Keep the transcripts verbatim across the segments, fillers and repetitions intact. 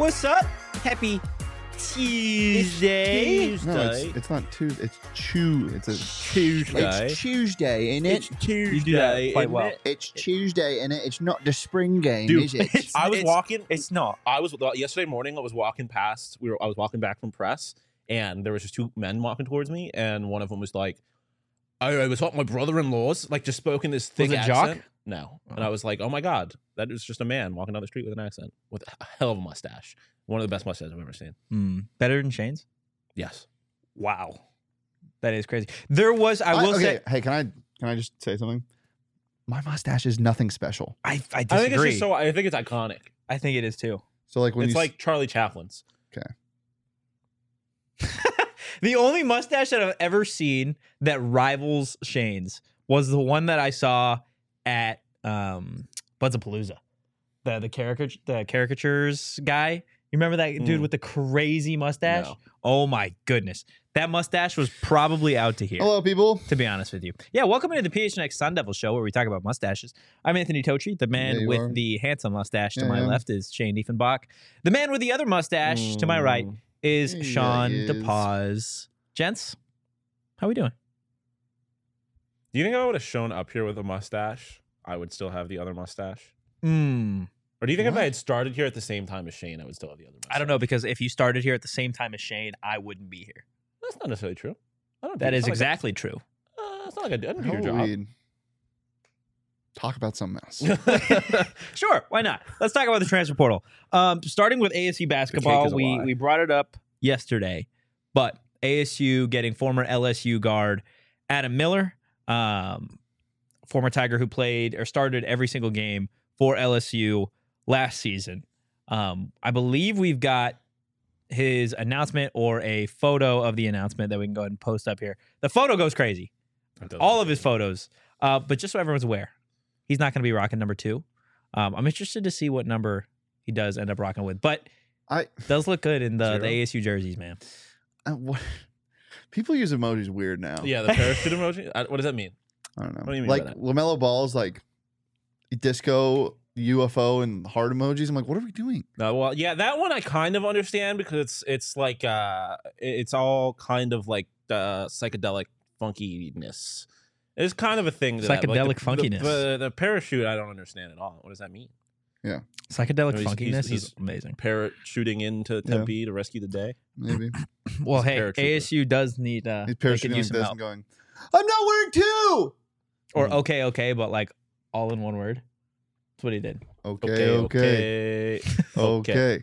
What's up? Happy Tuesday. It's Tuesday. No, it's, it's not Tuesday. It's Chew. It's a Tuesday. It's Tuesday, ain't it? It's Tuesday. You do that quite isn't well. it? It's Tuesday, and it? It's not the spring game, Dude, is it? It's- I was it's- walking. It's not. I was yesterday morning. I was walking past. We were. I was walking back from press, and there was just two men walking towards me, and one of them was like, "I, I was at my brother-in-law's." Like, just spoke in this thick it accent. Jock? No, and I was like, "Oh my god, that is just a man walking down the street with an accent with a hell of a mustache. One of the best mustaches I've ever seen." Mm, better than Shane's? Yes. Wow. That is crazy. There was, I I- will okay, say, hey, can I can I just say something? My mustache is nothing special. I, I I disagree. think it's just so. I think it's iconic. I think it is too. So like when It's you like Charlie Chaplin's. The only mustache that I've ever seen that rivals Shane's was the one that I saw at um, Buds-a-Palooza. The the caricature the caricatures guy. You remember that dude Mm. with the crazy mustache? No. Oh my goodness. That mustache was probably out to here. hello people. To be honest with you. Yeah, welcome into the P H N X Sun Devil Show where we talk about mustaches. I'm Anthony Totri. The man Yeah, you with are. the handsome mustache to Yeah, my yeah. left is Shane Diefenbach. The man with the other mustache to my right Mm. is Yeah, Sean he is. DePaz. Gents, how we doing? Do you think if I would have shown up here with a mustache, I would still have the other mustache? Mm, Or do you think if What? I had started here at the same time as Shane, I would still have the other mustache? I don't know, because if you started here at the same time as Shane, I wouldn't be here. That's not necessarily true. I don't. That do, is it's not exactly true. Like a, uh, it's not like I, do- I don't do How your about job. we talk about something else? Sure, why not? Let's talk about the transfer portal. Um, starting with A S U basketball, is a we lie. we brought it up yesterday, but A S U getting former L S U guard Adam Miller, um, former Tiger who played or started every single game for L S U last season. Um, I believe we've got his announcement or a photo of the announcement that we can go ahead and post up here. The photo goes crazy. It doesn't All look of his good. photos. Uh, but just so everyone's aware, he's not going to be rocking number two. Um, I'm interested to see what number he does end up rocking with. But I does look good in the, Zero? the A S U jerseys, man. uh, what, people use emojis weird now. Yeah, the parachute emoji. I, what does that mean? I don't know. What do you mean by like that? Lamelo Ball's like disco, U F O, and heart emojis. I'm like, what are we doing? No, well, yeah, that one I kind of understand because it's it's like uh, it's all kind of like uh, psychedelic funkiness. It's kind of a thing. To that, but, like, Psychedelic the, funkiness. The, the, the parachute, I don't understand at all. What does that mean? Psychedelic No, he's- funkiness he's- is he's- amazing. Parachuting into Tempe to rescue the day. Maybe Well, he's a hey, paratrooper. A S U does need uh, he's they parachuting could like use this some and help. going, I'm not wearing two. Or Mm. okay, okay, but like all in one word. That's what he did. Okay, okay, okay, okay.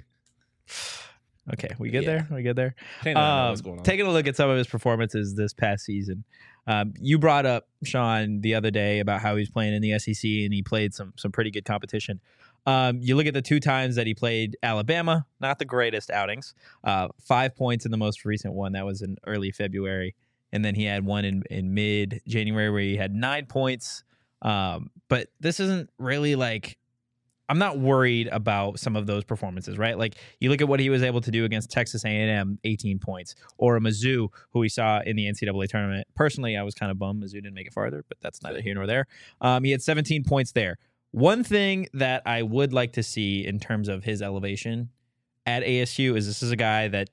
Okay, we get Yeah. there. We get there. Shane and I know Um, what's going on. taking a look at some of his performances this past season. Um, you brought up Sean the other day about how he's playing in the S E C and he played some some pretty good competition. Um, you look at the two times that he played Alabama, not the greatest outings. Uh, five points in the most recent one that was in early February, and then he had one in in mid January where he had nine points. Um, but this isn't really like. I'm not worried about some of those performances, right? Like you look at what he was able to do against Texas A and M, eighteen points, or a Mizzou, who we saw in the N C double A tournament. Personally, I was kind of bummed Mizzou didn't make it farther, but that's neither here nor there. Um, he had seventeen points there. One thing that I would like to see in terms of his elevation at A S U is this is a guy that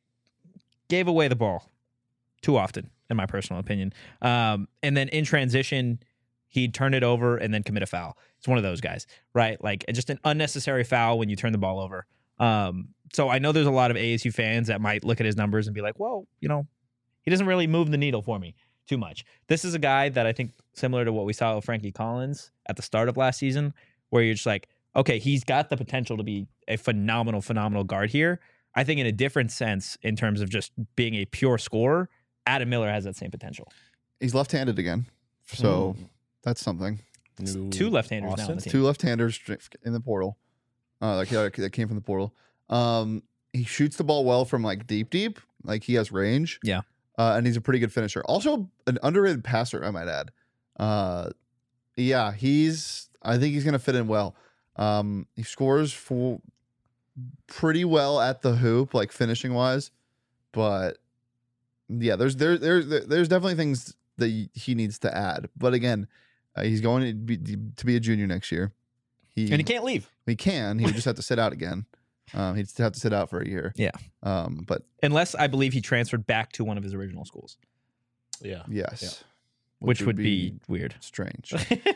gave away the ball too often, in my personal opinion. Um, and then in transition, he'd turn it over and then commit a foul. It's one of those guys, right? Like just an unnecessary foul when you turn the ball over. Um, so I know there's a lot of A S U fans that might look at his numbers and be like, well, you know, he doesn't really move the needle for me too much. This is a guy that I think similar to what we saw with Frankie Collins at the start of last season, where you're just like, okay, he's got the potential to be a phenomenal, phenomenal guard here. I think in a different sense, in terms of just being a pure scorer, Adam Miller has that same potential. He's left-handed again, so Mm. that's something. New Two left-handers now on Austin? the team. Two left-handers in the portal. Uh, like yeah, that came from the portal. Um, he shoots the ball well from like deep, deep. Like he has range. Yeah. Uh, and he's a pretty good finisher. Also, an underrated passer, I might add. Uh, yeah, he's. I think he's gonna fit in well. Um, he scores for pretty well at the hoop, like finishing wise. But yeah, there's there there's there's definitely things that he needs to add. But again, uh, he's going to be to be a junior next year. He And he can't leave. he can. He would just have to sit out again. Um, he'd have to sit out for a year. Yeah. Um, but Unless I believe he transferred back to one of his original schools, Yeah. yes, Yeah. which, would be, weird. strange.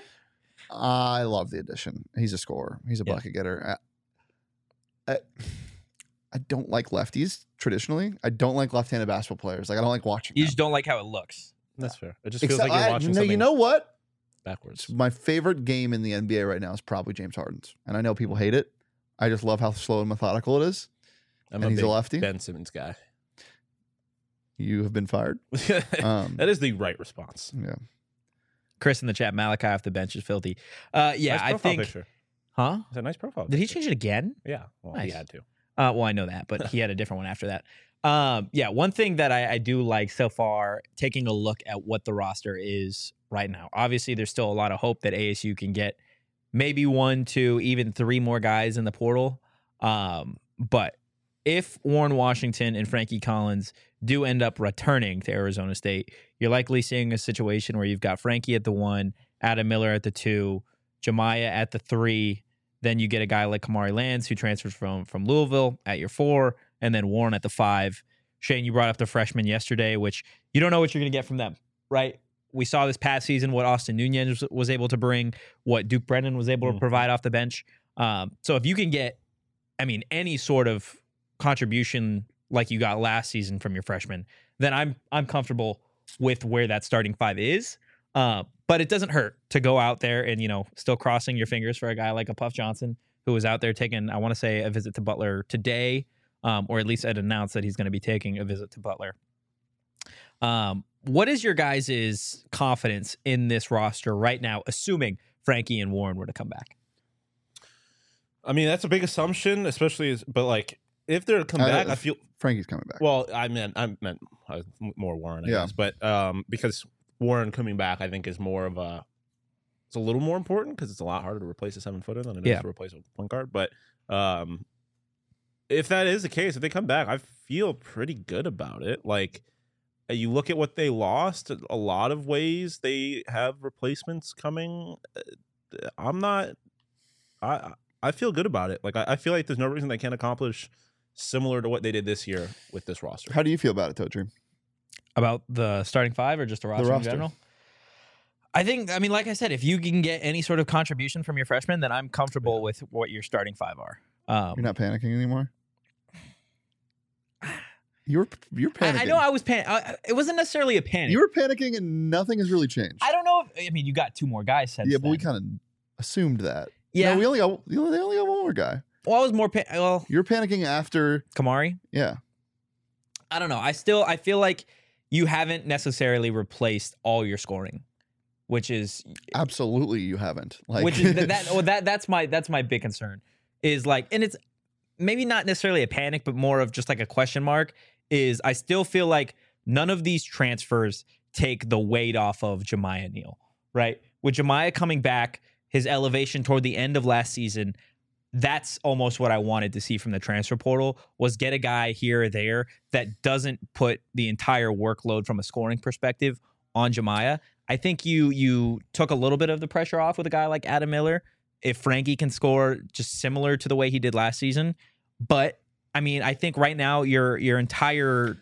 I love the addition. He's a scorer. He's a Yeah. bucket getter. I, I, I don't like lefties traditionally. I don't like left-handed basketball players. Like I don't like watching. You them. just don't like how it looks. That's fair. It just feels Except like you're I- watching no, something you know what? backwards. My favorite game in the N B A right now is probably James Harden's, and I know people hate it. I just love how slow and methodical it is. I'm and a he's big a lefty. Ben Simmons guy. You have been fired. Um, that is the right response. yeah. Chris in the chat, Malachi off the bench is filthy. Uh, yeah, nice I profile think. picture. Huh? It's a nice profile. Did he picture. change it again? Yeah. Well, Nice. he had to. Uh, well, I know that, but he had a different one after that. Um, yeah, one thing that I, I do like so far, taking a look at what the roster is right now. Obviously, there's still a lot of hope that A S U can get maybe one, two, even three more guys in the portal. Um, but if Warren Washington and Frankie Collins do end up returning to Arizona State, you're likely seeing a situation where you've got Frankie at the one, Adam Miller at the two, Jemiah at the three. Then you get a guy like Kamari Lands who transfers from from Louisville at your four, and then Warren at the five. Shane, you brought up the freshmen yesterday, which you don't know what you're going to get from them, right? We saw this past season what Austin Nunez was, was able to bring, what Duke Brennan was able to Mhm. provide off the bench. Um, so if you can get, I mean, any sort of contribution like you got last season from your freshmen, then I'm I'm comfortable with where that starting five is. Uh, but it doesn't hurt to go out there and, you know, still crossing your fingers for a guy like a Puff Johnson who was out there taking, I want to say, a visit to Butler today, um, or at least had announced that he's going to be taking a visit to Butler. Um, what is your guys' confidence in this roster right now, assuming Frankie and Warren were to come back? I mean, that's a big assumption, especially, as, but like if they're to come Uh, back, I if- feel. Frankie's coming back. Well, I meant I meant uh, more Warren, I Yeah. guess, but um, because Warren coming back, I think is more of a. It's a little more important because it's a lot harder to replace a seven footer than it is Yeah. to replace a point guard. But um, if that is the case, if they come back, I feel pretty good about it. Like you look at what they lost, a lot of ways they have replacements coming. Uh, I'm not. I I feel good about it. Like I, I feel like there's no reason they can't accomplish similar to what they did this year with this roster. How do you feel about it, Totri? About the starting five or just the roster, roster. in general? I think, I mean, like I said, if you can get any sort of contribution from your freshmen, then I'm comfortable with what your starting five are. Um, You're not panicking anymore. You were you're panicking. I, I know I was pan. I, it wasn't necessarily a panic. You were panicking, and nothing has really changed. I don't know. If, I mean, you got two more guys since yeah, but we then. kind of assumed that. Yeah. No, we only got they only only got one more guy. Well, I was more. Pa- well, You're panicking after. Kamari. Yeah. I don't know. I still. I feel like you haven't necessarily replaced all your scoring, which is Absolutely, you haven't. Like which is that. that well, that that's my that's my big concern. Is like, and it's maybe not necessarily a panic, but more of just like a question mark. Is I still feel like none of these transfers take the weight off of Jemiah Neal, right? With Jemiah coming back, his elevation toward the end of last season, that's almost what I wanted to see from the transfer portal, was get a guy here or there that doesn't put the entire workload from a scoring perspective on Jemiah. I think you you took a little bit of the pressure off with a guy like Adam Miller. If Frankie can score just similar to the way he did last season. But I mean, I think right now your your entire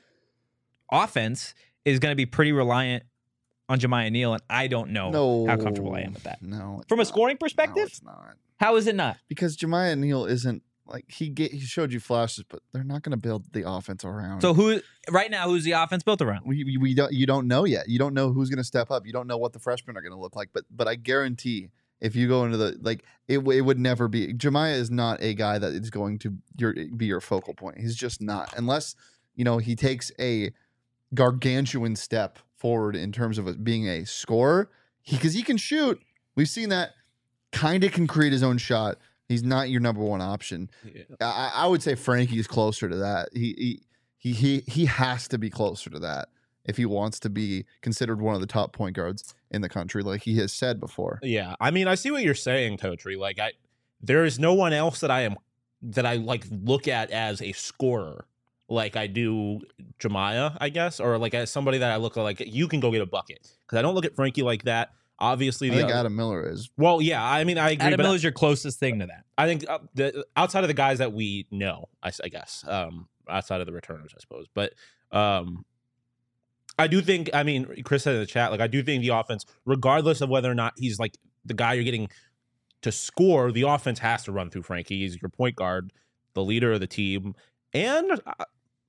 offense is going to be pretty reliant on Jemiah Neal, and I don't know no, how comfortable I am with that. No, it's From a not. scoring No, perspective, it's not. how is it not? Because Jemiah Neal isn't like he get, he showed you flashes, but they're not going to build the offense around. So who right now? Who's the offense built around? we, we, we don't you don't know yet. You don't know who's going to step up. You don't know what the freshmen are going to look like. But but I guarantee if you go into the like it w- it would never be. Jemiah is not a guy that is going to your be your focal point. He's just not, unless you know he takes a gargantuan step forward in terms of it being a scorer. He because he can shoot. We've seen that. Kind of can create his own shot. He's not your number one option. Yeah. I, I would say Frankie is closer to that. He, he he he he has to be closer to that if he wants to be considered one of the top point guards in the country, like he has said before. Yeah, I mean, I see what you're saying, Totri. Like, I there is no one else that I am that I like look at as a scorer like I do Jemiah, I guess, or like as somebody that I look at like you can go get a bucket because I don't look at Frankie like that. Obviously, I the think other- Adam Miller is. well, yeah. I mean, I agree. Adam but Miller's your closest thing to that. I think uh, the, outside of the guys that we know, I, s- I guess, um, outside of the returners, I suppose. But um, I do think, I mean, Chris said in the chat, like, I do think the offense, regardless of whether or not he's like the guy you're getting to score, the offense has to run through Frankie. He's your point guard, the leader of the team. And uh,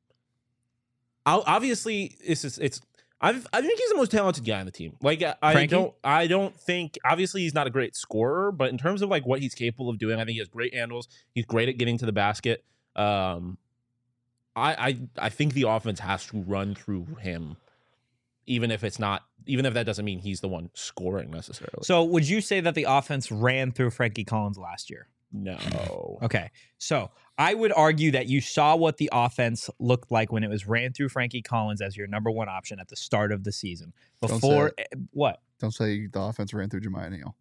I'll, obviously, it's, it's, it's I've, I think he's the most talented guy on the team. Like, I, I Frankie? don't, I don't think. Obviously, he's not a great scorer, but in terms of like what he's capable of doing, I think he has great handles. He's great at getting to the basket. Um, I, I, I think the offense has to run through him, even if it's not, even if that doesn't mean he's the one scoring necessarily. So would you say that the offense ran through Frankie Collins last year? No. Okay. So I would argue that you saw what the offense looked like when it was ran through Frankie Collins as your number one option at the start of the season. Don't Before say what? Don't say the offense ran through Jemiah Neal.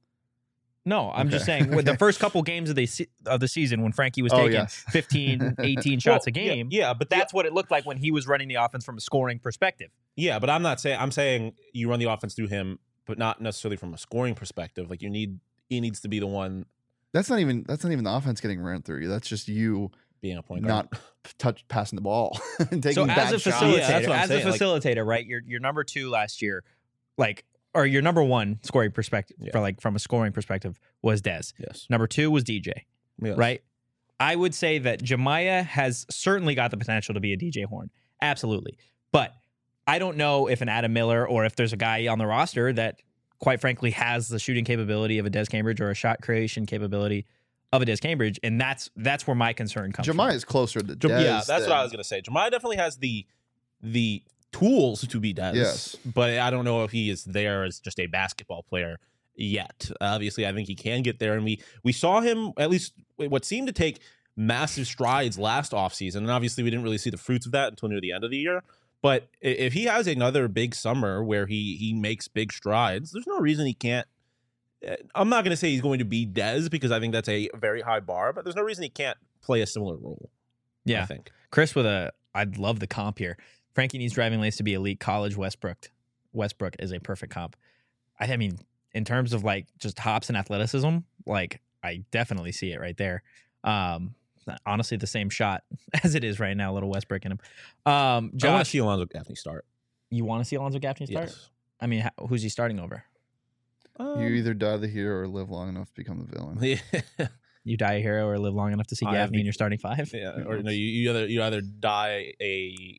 No, I'm just Okay. saying with the Okay. first couple games of the se- of the season when Frankie was Oh, taking yes. fifteen, eighteen shots Well, a yeah, game. Yeah, but That's what it looked like when he was running the offense from a scoring perspective. Yeah, but I'm not saying I'm saying you run the offense through him, but not necessarily from a scoring perspective. Like you need he needs to be the one That's not even that's not even the offense getting ran through you. That's just you being a point guard. not touch passing the ball and taking So bad as a shots. facilitator, Yeah, that's what I'm as saying, a like- facilitator, right? You're you're number two last year, like or your number one scoring perspective Yeah. for like from a scoring perspective was Dez. Yes. Number two was D J. Yes. Right? I would say that Jemiah has certainly got the potential to be a D J Horn. Absolutely. But I don't know if an Adam Miller or if there's a guy on the roster that, quite frankly, has the shooting capability of a Des Cambridge or a shot creation capability of a Des Cambridge. And that's that's where my concern comes Jemiah from. is closer to Jem- Dez yeah, that's than- what I was gonna say. Jemiah definitely has the the tools to be Dez. Yes. But I don't know if he is there as just a basketball player yet. Obviously, I think he can get there. And we we saw him at least what seemed to take massive strides last offseason. And obviously we didn't really see the fruits of that until near the end of the year. But i- if he has another big summer where he he makes big strides, there's no reason he can't. eh, I'm not going to say he's going to be Dez because I think that's a very high bar, but there's no reason he can't play a similar role. I Yeah. think. Chris with a I'd love the comp here. Frankie needs driving lanes to be elite college. Westbrook. Westbrook is a perfect comp. I, I mean, in terms of like just hops and athleticism, like I definitely see it right there. Um, honestly, the same shot as it is right now. Little Westbrook in him. Um, I want to Josh, see Alonzo Gaffney start. you want to see Alonzo Gaffney start? Yes. I mean, ho- who's he starting over? You Um, either die the hero or live long enough to become the villain. yeah, You die a hero or live long enough to see I Gaffney think- in your starting five? yeah. Or no, you, you either you either die a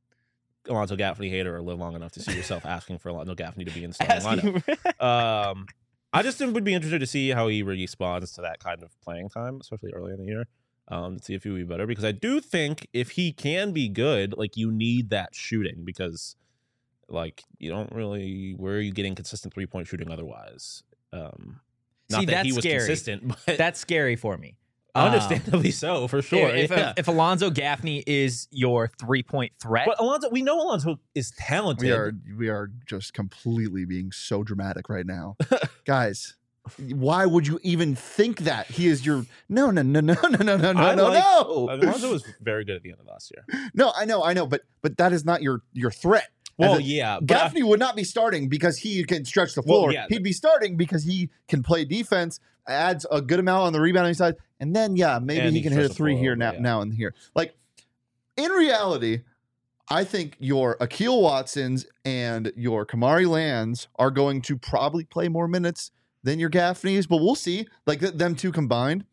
Alonzo Gaffney hater or live long enough to see yourself asking for Alonzo Gaffney to be in the starting lineup. Asking- Um, I just would be interested to see how he responds to that kind of playing time, especially early in the year. Um, to see if he will be better because I do think if he can be good, like you need that shooting because, like, you don't really where are you getting consistent three point shooting otherwise? Um, not See, that he that's was scary. consistent, but That's scary for me. Um, understandably so for sure. If, yeah. if, if Alonzo Gaffney is your three point threat, but Alonzo, we know Alonzo is talented. We are we are just completely being so dramatic right now. Guys, why would you even think that? He is your no no no no no no no no I no like- no. Alonzo was very good at the end of last year. No, I know, I know, but but that is not your your threat. Well, As a- yeah, but I- Gaffney would not be starting because he can stretch the Well, floor. yeah. He'd be starting because he can play defense, adds a good amount on the rebounding side, and then yeah, maybe And he he can can hit a stretch the three floor here over, now, yeah. now and here. Like in reality, I think your Akil Watsons and your Kamari Lands are going to probably play more minutes than your Gaffneys, but we'll see. Like th- them two combined.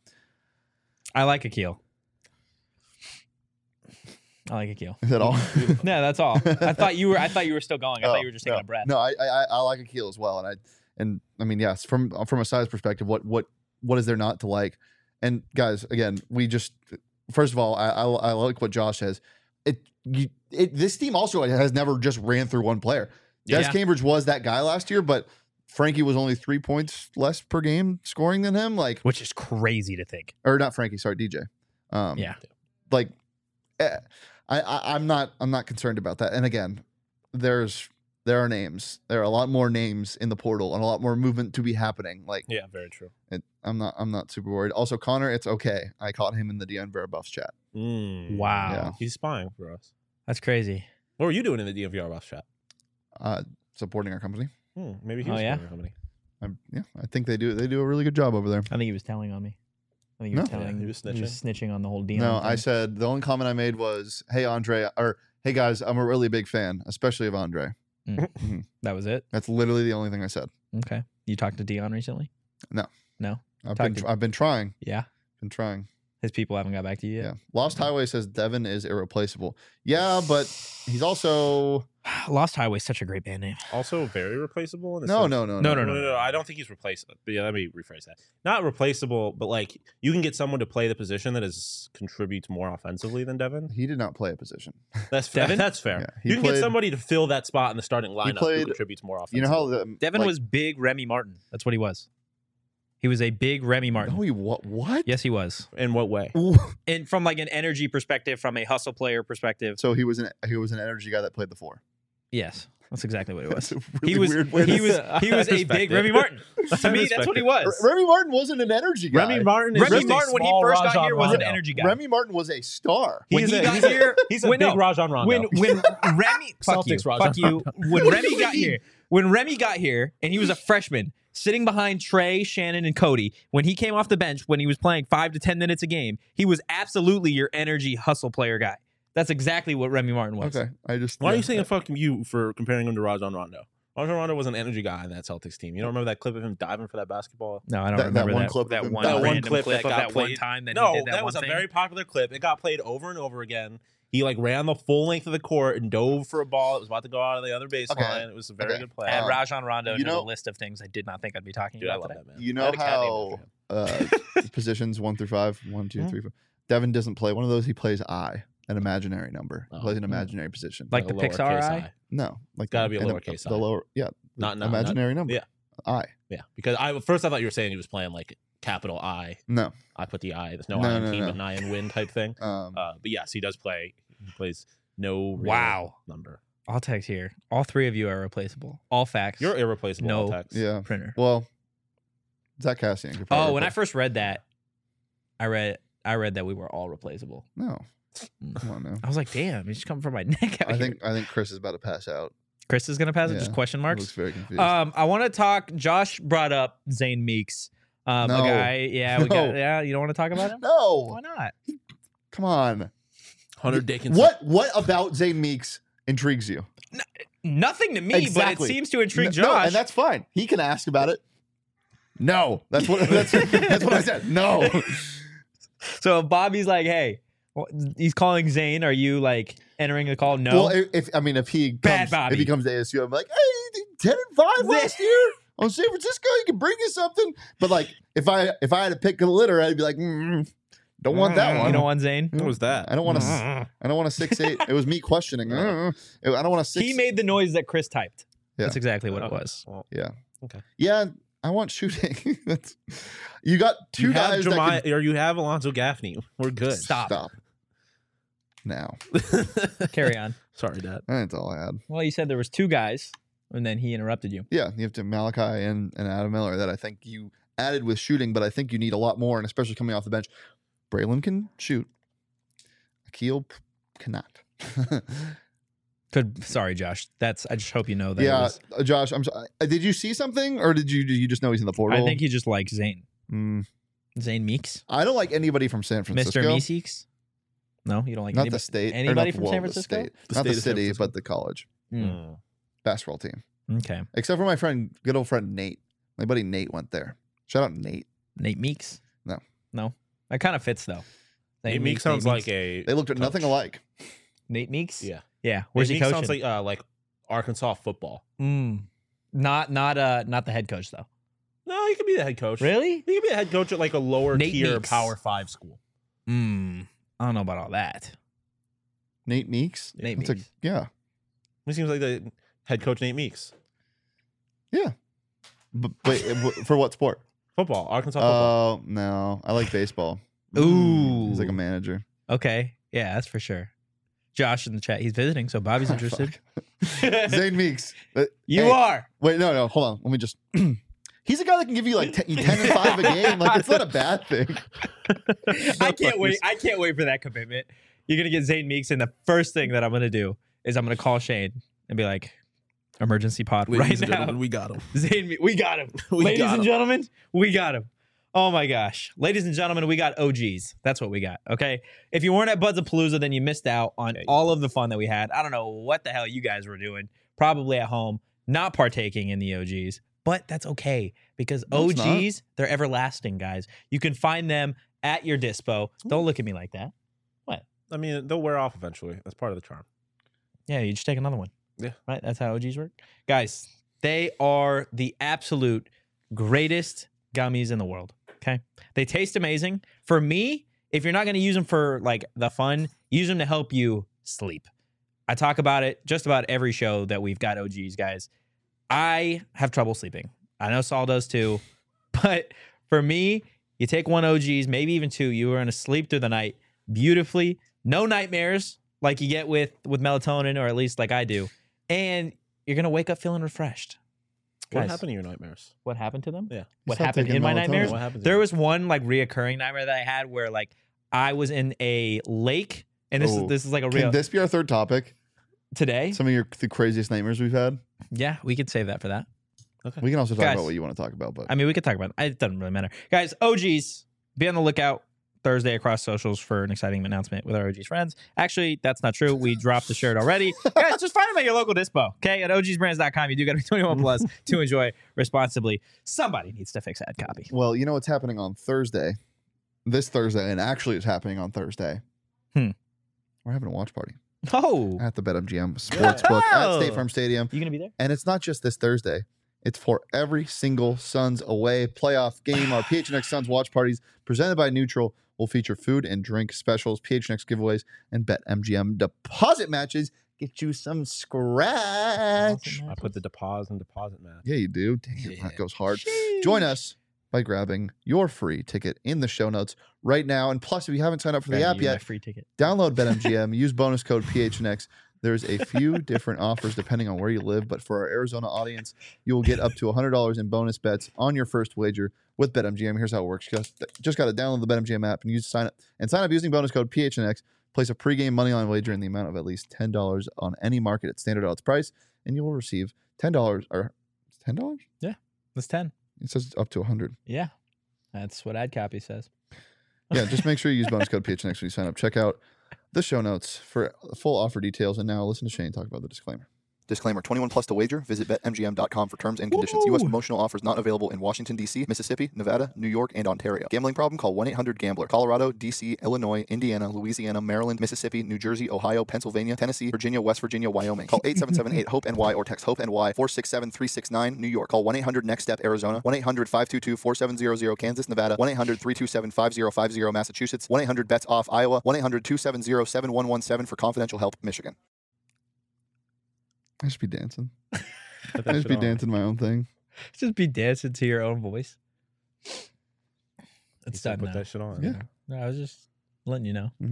I like Akil. I like Akil. Is that all? No, that's all. I thought you were. I thought you were still going. I Oh, thought you were just taking no. a breath. No, I, I I like Akil as well, and I and I mean yes, from from a size perspective, what what what is there not to like? And guys, again, we just first of all, I I, I like what Josh says. It you it this team also has never just ran through one player. Des Yeah. Cambridge was that guy last year, but Frankie was only three points less per game scoring than him. Like Which is crazy to think. or not Frankie, sorry, D J. Um, Yeah. like eh, I, I I'm not I'm not concerned about that. And again, there's there are names. There are a lot more names in the portal and a lot more movement to be happening. Like yeah, very true. it, I'm not I'm not super worried. Also, Connor, it's okay. I caught him in the D N V R Buffs chat. Mm. Wow. Yeah. He's spying for us. That's crazy. What were you doing in the D M V R boss chat? Uh, supporting our company. Hmm, maybe he Oh, was yeah? spying on somebody. I, yeah, I think they do. They do a really good job over there. I think he was telling on me. I think he No. was Yeah, telling. he was He was snitching on the whole deal. No, I said the only comment I made was, "Hey Andre," or "Hey guys, I'm a really big fan, especially of Andre." that was it. That's literally the only thing I said. Okay. You talked to Dion recently? No. No. I've Talk been to- I've been trying. Yeah. Been trying. His people haven't got back to you Yeah. yet. Lost Highway says Devin is irreplaceable. Yeah, but he's also Lost Highway is such a great band name. Also very replaceable. In the no, sense- no, no, No, No, no, no, no, I don't think he's replaceable. But yeah, let me rephrase that. Not replaceable, but like you can get someone to play the position that is contributes more offensively than Devin. He did not play a position. That's Devin? That's fair. Yeah, he you can played- get somebody to fill that spot in the starting lineup played- who contributes more offensively. You know how the Devin like- was big Remy Martin. That's what he was. He was a big Remy Martin. No, he what? What? Yes, he was. in what way? Ooh. And from like an energy perspective, from a hustle player perspective, So he was an he was an energy guy that played the four. yes, that's exactly what it was. That's a really He was weird way he to was say- he was I a respect big it. Remy Martin. To I me, respect that's what he it. was. Remy Martin wasn't an energy guy. Remy Martin is Remy just a Martin, when he small first got Rajon here, was an Rondo. energy guy. Remy Martin was a star. When He's he a- got he's a- here, He's a when, big no, Rajon Rondo. when when Remy fuck you, Celtics Rajon fuck you. When Remy got here, when Remy got here, and he was a freshman, sitting behind Trey, Shannon, and Cody. When he came off the bench, when he was playing five to ten minutes a game, he was absolutely your energy hustle player guy. That's exactly what Remy Martin was. Okay, I just Why are yeah. you saying fuck you for comparing him to Rajon Rondo? Rajon Rondo was an energy guy in that Celtics team. You don't remember that clip of him diving for that basketball? No, I don't That- that remember one that. clip of that him one, diving. That one random clip clip that of got that one played- time that No, he did that, that one was a thing. very popular clip. It got played over and over again. He like ran the full length of the court and dove for a ball that was about to go out of the other baseline. Okay. It was a very Okay. good play. Add Um, Rajon Rondo you to know- the list of things I did not think I'd be talking Dude, I about love today. that man. You I know had a cat named how after him. uh, positions one through five, one, two, Mhm. three, four. Devin doesn't play one of those. He plays I, an imaginary number. He Oh. plays an Mm. imaginary position. Like a the Pixar lowercase eye? no, like Gotta be a and the- lowercase The I. lower, yeah, Not- the not- not- imaginary number. yeah. I. Yeah, because I at first I thought you were saying he was playing like capital I. No. I put the I. There's no, No, I in no, team, no. but an I in win type thing. Um, Uh, but yes, he does play. He plays no real Wow. number. I'll text here. All three of you are replaceable. All facts. You're irreplaceable. No. Tex. yeah. printer. Well, Zach Cassian. could Oh, probably when I replace- first read that, I read I read that we were all replaceable. no, Mm. come on now. I was like, damn, he's just coming from my neck out I here. think I think Chris is about to pass out. Chris is gonna pass it. Just Yeah. question He marks. looks very confused. Um, I want to talk. Josh brought up Zane Meeks, um, No. a guy. Yeah, we No. got. Yeah, you don't want to talk about him? no, Why not? come on. Hunter Dickinson. What what about Zane Meeks intrigues you? Nothing to me, but it Exactly. seems to intrigue No, Josh. no, and that's fine. He can ask about it. No, that's what that's, that's what I said. No. So if Bobby's like, hey, well, he's calling Zane, are you like entering the call? No. Well, if, if I mean if he Bad comes, Bobby. if he comes to A S U, I'm like, hey, ten and five last year on San Francisco, you can bring us something. But like, if I if I had to pick a litter, I'd be like, mm, don't want that one. You don't want Zane? What was that? I don't want to. Mm. I don't want a six eight. It was me questioning. Mm, I don't want a six. He made the noise that Chris typed. Yeah. That's exactly what it Okay. was. Well, Yeah, I want shooting. That's you got two you have guys Jemi- that can or you have Alonzo Gaffney. We're good. Stop. stop now. Carry on. Sorry, Dad. That's all I had. Well, you said there was two guys, and then he interrupted you. Yeah, you have to Malachi and, and Adam Miller that I think you added with shooting, but I think you need a lot more, and especially coming off the bench. Braylon can shoot. Akil p- cannot. Could sorry, Josh. That's I just hope you know that. it yeah, was- uh, Josh. I'm. So- uh, Did you see something, or did you did you just know he's in the portal? I think he just likes Zane. Mm, Zane Meeks, I don't like anybody from San Francisco. Mister Meeseeks. No, you don't like Not anybody. the state. or anybody not- from well, San the Francisco? state. The not state the of San city, Francisco. but the college Mm, Mm. basketball team. Okay, Except for my friend, good old friend Nate. My buddy Nate went there. Shout out Nate. Nate Meeks. No. no, that kind of fits though. Nate Meek sounds like a. They looked at nothing coach. alike. Nate Meeks. Yeah. yeah. Where's Nate he Meek coaching? sounds like uh, like Arkansas football. Mm. Not not uh not the head coach though. No, he could be the head coach. Really? He could be a head coach at like a lower Nate tier Meeks. Power Five school. Mm. I don't know about all that. Nate Meeks. Nate That's a- Meeks. yeah. He seems like the head coach Nate Meeks. But wait, uh, wh- for what sport? Football, Arkansas football. Oh no, I like baseball. Ooh. He's like a manager. Okay. Yeah, that's for sure. Josh in the chat. He's visiting, so Bobby's interested. Fuck. Zane Meeks. Uh, You hey, are. Wait, no, no. Hold on. Let me just. He's a guy that can give you like ten, ten and five a game. Like it's not a bad thing. I can't wait. I can't wait for that commitment. You're gonna get Zane Meeks, and the first thing that I'm gonna do is I'm gonna call Shane and be like, emergency pod Ladies right and now. gentlemen, we got him. Zayn, we got him. We Ladies got and him. gentlemen, we got him. Oh my gosh. Ladies and gentlemen, we got O Gs. That's what we got. Okay. If you weren't at Buds of Palooza, then you missed out on Yeah, you all of the fun that we had. I don't know what the hell you guys were doing. Probably at home, not partaking in the O Gs. But that's okay because No, it's O Gs, they're everlasting, guys. You can find them at your dispo. Don't look at me like that. I mean, they'll wear off eventually. That's part of the charm. Yeah, you just take another one. Yeah. Right? That's how O Gs work. Guys, they are the absolute greatest gummies in the world. Okay. They taste amazing. For me, if you're not going to use them for like the fun, use them to help you sleep. I talk about it just about every show that we've got O Gs, guys. I have trouble sleeping. I know Saul does too. But for me, you take one O Gs, maybe even two, you are going to sleep through the night beautifully. No nightmares like you get with, with melatonin, or at least like I do. And you're going to wake up feeling refreshed. What Guys, happened to your nightmares? What happened to them? Yeah. What Stop happened taking in my melatonin. nightmares? What happened? To There you? was one like reoccurring nightmare that I had where like I was in a lake, and this Oh. is this is like a Can real this be our third topic? today. Some of your the craziest nightmares we've had. Yeah, we could save that for that. We can also talk Guys. about what you want to talk about, but I mean, we could talk about it. It doesn't really matter, guys. O Gs, be on the lookout Thursday across socials for an exciting announcement with our O Gs friends. Actually, that's not true. We dropped the shirt already. Guys, just find them at your local dispo. Okay, at O Gs brands dot com. You do got to be twenty-one plus to enjoy responsibly. Somebody needs to fix ad copy. well, you know what's happening on Thursday, this Thursday, and actually it's happening on Thursday. Hmm. We're having a watch party Oh, at the BetMGM Sportsbook Oh. at State Farm Stadium, you gonna be there? and it's not just this Thursday. It's for every single Suns away playoff game. Our P H N X Suns watch parties presented by Neutral will feature food and drink specials, P H N X giveaways, and BetMGM deposit matches. Get you some scratch. I put the deposit and deposit match. Yeah, you do. Damn, Yeah. that goes hard. Join us by grabbing your free ticket in the show notes right now. And plus, if you haven't signed up for the Grab app you my yet, free ticket. download BetMGM, use bonus code P H N X. There's a few different offers depending on where you live, but for our Arizona audience, you will get up to one hundred dollars in bonus bets on your first wager with BetMGM. Here's how it works. Just, just got to download the BetMGM app and use sign up and sign up using bonus code P H N X. Place a pregame moneyline wager in the amount of at least ten dollars on any market at standard odds price, and you will receive ten dollars or ten dollars? That's ten. It says up to one hundred. Yeah, that's what ad copy says. Yeah, just make sure you use bonus code P H N X when you sign up. Check out the show notes for full offer details. And now listen to Shane talk about the disclaimer. Disclaimer, twenty-one plus to wager. Visit bet M G M dot com for terms and conditions. U S Woo! promotional offers not available in Washington, D C, Mississippi, Nevada, New York, and Ontario. Gambling problem? Call one eight hundred gambler. Colorado, D C, Illinois, Indiana, Louisiana, Maryland, Mississippi, New Jersey, Ohio, Pennsylvania, Tennessee, Virginia, West Virginia, Wyoming. Call eight seven seven eight hope N Y or text HOPE N Y four six seven three six nine. New York. Call one eight hundred next step Arizona. one eight hundred five two two four seven zero zero. Kansas, Nevada. one eight hundred three two seven five zero five zero. Massachusetts. one eight hundred bets off Iowa. one eight hundred two seven zero seven one one seven for confidential help, Michigan. I should be dancing. Put that I just shit be on. dancing my own thing. Just be dancing to your own voice. You It's said done Put now. that shit on. Yeah. No, I was just letting you know.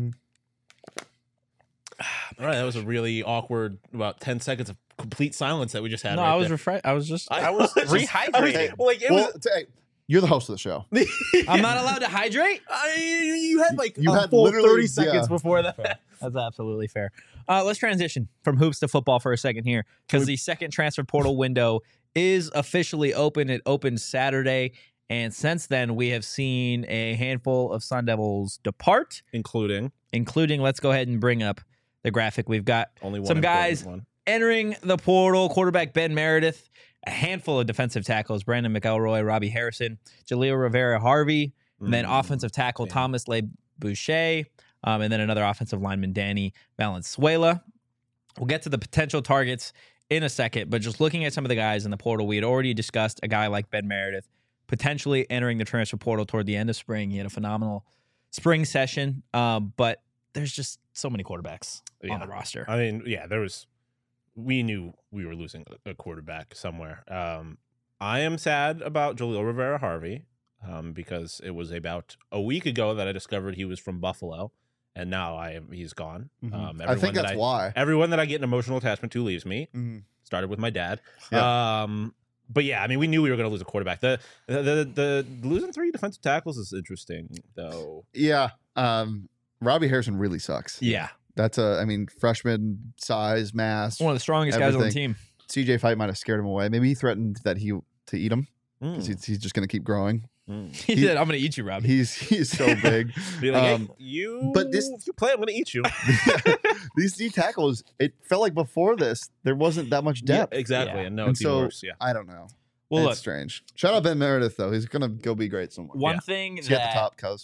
All right, that was a really awkward about ten seconds of complete silence that we just had. No, right I was there. refresh. I was just. I I was was just- rehydrating. I was- like it Well, was. t- hey, you're the host of the show. I'm not allowed to hydrate. I, you had like You a had full literally- thirty seconds yeah. before that. That's absolutely fair. Uh, let's transition from hoops to football for a second here, because the second transfer portal window is officially open. It opened Saturday, and since then we have seen a handful of Sun Devils depart, Including including. Let's go ahead and bring up the graphic. We've got only one Some important guys- One. entering the portal: quarterback Ben Meredith, a handful of defensive tackles: Brandon McElroy, Robbie Harrison, Jaleel Rivera Harvey, and then Mm. offensive tackle damn. Thomas Le Boucher, um, and then another offensive lineman, Danny Valenzuela. We'll get to the potential targets in a second, but just looking at some of the guys in the portal, we had already discussed a guy like Ben Meredith potentially entering the transfer portal toward the end of spring. He had a phenomenal spring session, um, but there's just so many quarterbacks on Yeah. the roster. I mean, yeah, there was. We knew we were losing a, a quarterback somewhere. Um, I am sad about Jaleel Rivera Harvey um, because it was about a week ago that I discovered he was from Buffalo, and now I he's gone. Mhm. Um, I think that that's why. Everyone that I get an emotional attachment to leaves me. Mhm. Started with my dad. Yeah. Um, but yeah, I mean, we knew we were going to lose a quarterback. The, the the the losing three defensive tackles is interesting, though. Yeah. Um, Robbie Harrison really sucks. Yeah. That's a, I mean, freshman size, mass. One of the strongest guys on the Everything. team. C J fight might have scared him away. Maybe he threatened that he to eat him because Mm, he's, he's just going to keep growing. mm. He, He- said, "I'm going to eat you, Robbie." He's he's so big. Be like, Um, hey, you. but this- if you play, I'm gonna eat you. These D tackles, it felt like before this there wasn't that much depth. Yeah, exactly. Yeah. And no, And it's even so worse. Yeah. I don't know. well, it's look, strange. Shout out Ben Meredith though. He's gonna go be great somewhere. one Yeah. thing He's at that the top, cuz.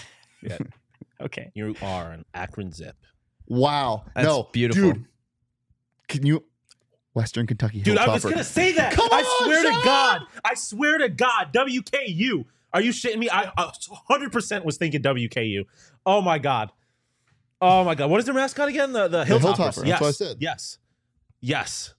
okay, You are an Akron Zip. Wow. That's no, beautiful. Dude, can you Western Kentucky Dude, I was Hilltopper. gonna say that. Come I on, swear Sean! to God. I swear to God. W K U. Are you shitting me? I uh, one hundred percent was thinking W K U. Oh my God. Oh my God. What is their mascot again? The the The Hilltoppers. Hilltopper, that's Yes. what I said. Yes. Yes.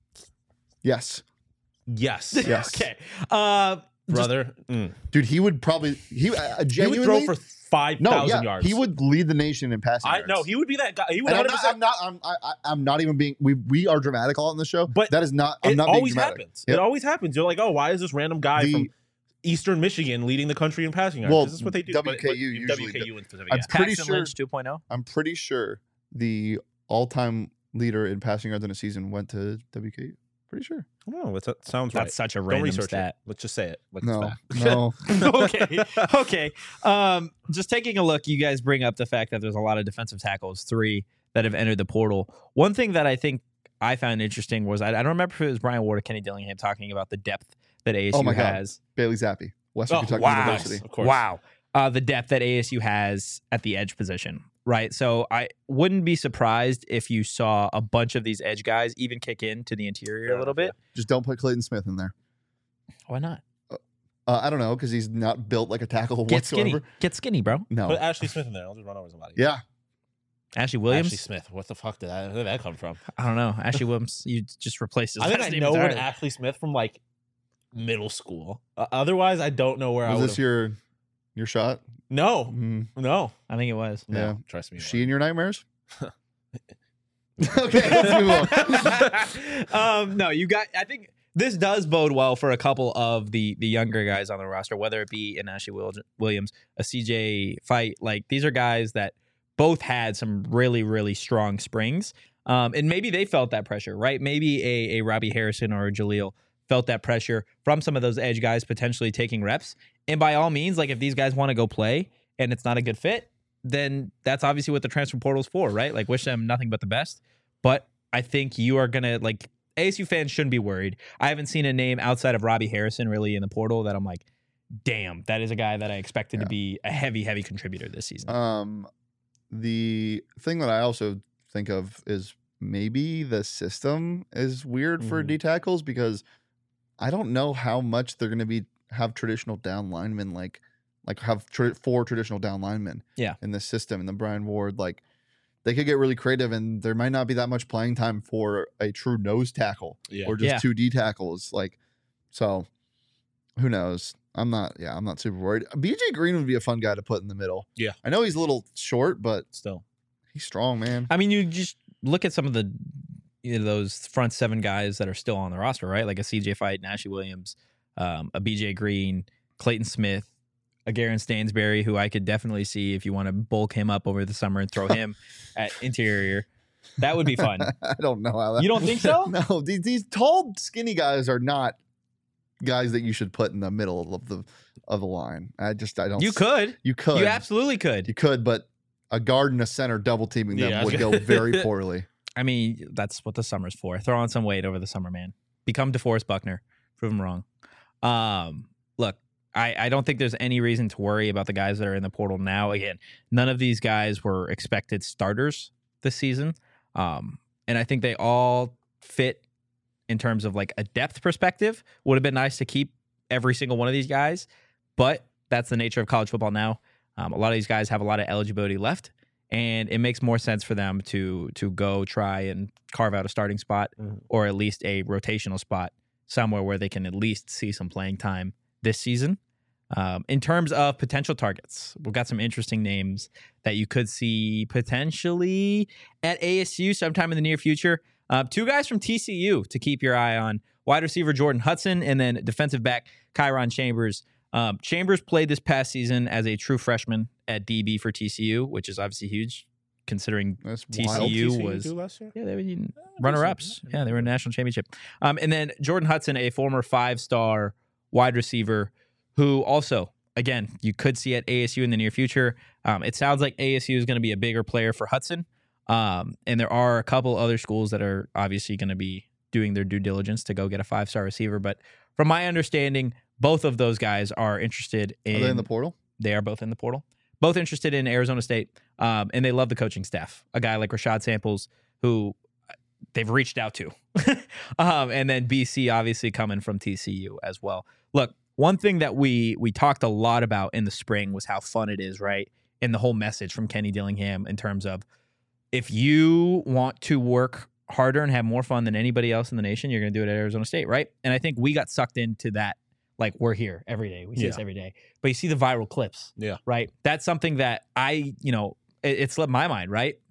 Yes. Yes. Yes. okay, uh, Brother. Mm. Dude, he would probably he uh, He genuinely would throw for five no, thousand yeah, yards. he would lead the nation in passing I yards. no, he would be that guy. He would And I'm one hundred not, percent. I'm not. I'm. I, I- I'm not even being. We we are dramatic a lot in the show, But that is not. I'm It not being always dramatic. happens. Yep. It always happens. You're like, oh, why is this random guy The- from Eastern Michigan leading the country in passing yards? Well, This is what they do. W K U but, but usually W K U in specific. I'm Yeah. pretty Paxton sure- Lynch two point oh. I'm pretty sure the all-time leader in passing yards in a season went to W K U. Pretty sure. No, that that sounds That's right. such a Don't random research stat. it. Let's just say it. Like No, it's no. okay. Okay. Um, just taking a look, you guys bring up the fact that there's a lot of defensive tackles, three that have entered the portal. One thing that I think I found interesting was I, I don't remember if it was Brian Ward or Kenny Dillingham talking about the depth that A S U Oh my God. has. Bailey Zappi, Western Oh, Kentucky wow. University. Of course. Wow. Uh, the depth that A S U has at the edge position, right? So I wouldn't be surprised if you saw a bunch of these edge guys even kick into the interior Fair a little enough, bit. Just don't put Clayton Smith in there. Why not? Uh, I don't know because he's not built like a tackle Get whatsoever. skinny. Get skinny, bro. No. Put Ashley Smith in there. I'll just run over somebody. Yeah. Ashley Williams. Ashley Smith. What the fuck did that, where did that come from? I don't know. Ashley Williams. You just replaced his I think last I name know an entirely. Ashley Smith from like middle school. Uh, otherwise, I don't know where I Was would. this your your shot? No, Mm, no, I think it was. no. Yeah. Trust me. it she in wasn't. your nightmares? Okay, let's move on. um, no, you got. I think this does bode well for a couple of the the younger guys on the roster, whether it be an Ashley Wil- Williams, a C J Fight. Like these are guys that both had some really really strong springs, um, and maybe they felt that pressure, right? Maybe a a Robbie Harrison or a Jaleel felt that pressure from some of those edge guys potentially taking reps. And by all means, like if these guys want to go play and it's not a good fit, then that's obviously what the transfer portal's for, right? Like wish them nothing but the best. But I think you are going to, like, A S U fans shouldn't be worried. I haven't seen a name outside of Robbie Harrison really in the portal that I'm like, damn, that is a guy that I expected Yeah. to be a heavy, heavy contributor this season. Um, the thing that I also think of is maybe the system is weird for Mhm. D tackles because I don't know how much they're going to be have traditional down linemen like like have tra- four traditional down linemen. Yeah. In this system, and the Brian Ward like they could get really creative, and there might not be that much playing time for a true nose tackle Yeah. or just Yeah. two D tackles. Like, so who knows? I'm not. Yeah, I'm not super worried. B J Green would be a fun guy to put in the middle. Yeah. I know he's a little short, but Still. he's strong, man. I mean, you just look at some of the, you know, those front seven guys that are still on the roster, right? Like a C J Fight, Ashley Williams, um, a B J Green, Clayton Smith, a Garen Stansberry, who I could definitely see if you want to bulk him up over the summer and throw him at interior. That would be fun. I don't know how that. You don't think so? No, these, these tall, skinny guys are not guys that you should put in the middle of the of the line. I just I don't. You could. You could. You absolutely could. You could, but a guard and a center double teaming them Yeah, I was would go gonna- very poorly. I mean, that's what the summer's for. Throw on some weight over the summer, man. Become DeForest Buckner. Prove him wrong. Um, look, I, I don't think there's any reason to worry about the guys that are in the portal now. Again, none of these guys were expected starters this season. Um, and I think they all fit in terms of like a depth perspective. Would have been nice to keep every single one of these guys, but that's the nature of college football now. Um, a lot of these guys have a lot of eligibility left, and it makes more sense for them to to go try and carve out a starting spot Mhm. or at least a rotational spot somewhere where they can at least see some playing time this season. Um, in terms of potential targets, we've got some interesting names that you could see potentially at A S U sometime in the near future. Uh, two guys from T C U to keep your eye on: wide receiver Jordan Hudson and then defensive back Kyron Chambers. Um, Chambers played this past season as a true freshman at D B for T C U, which is obviously huge considering That's T C U wild. T C U was do last year? yeah they were decent. runner-ups. Yeah, they were in a national championship. Um, and then Jordan Hudson, a former five-star wide receiver, who also again you could see at A S U in the near future. Um, it sounds like A S U is going to be a bigger player for Hudson, um, and there are a couple other schools that are obviously going to be doing their due diligence to go get a five-star receiver. But from my understanding, both of those guys are interested in. Are they in the portal? They are both in the portal. Both interested in Arizona State, um, and they love the coaching staff. A guy like Rashad Samples, who they've reached out to. um, and then B C obviously coming from T C U as well. Look, one thing that we we talked a lot about in the spring was how fun it is, right? And the whole message from Kenny Dillingham in terms of if you want to work harder and have more fun than anybody else in the nation, you're going to do it at Arizona State, right? And I think we got sucked into that. Like, we're here every day. We see Yeah. this every day. But you see the viral clips. Yeah. Right? That's something that I, you know, it, it slipped my mind, right?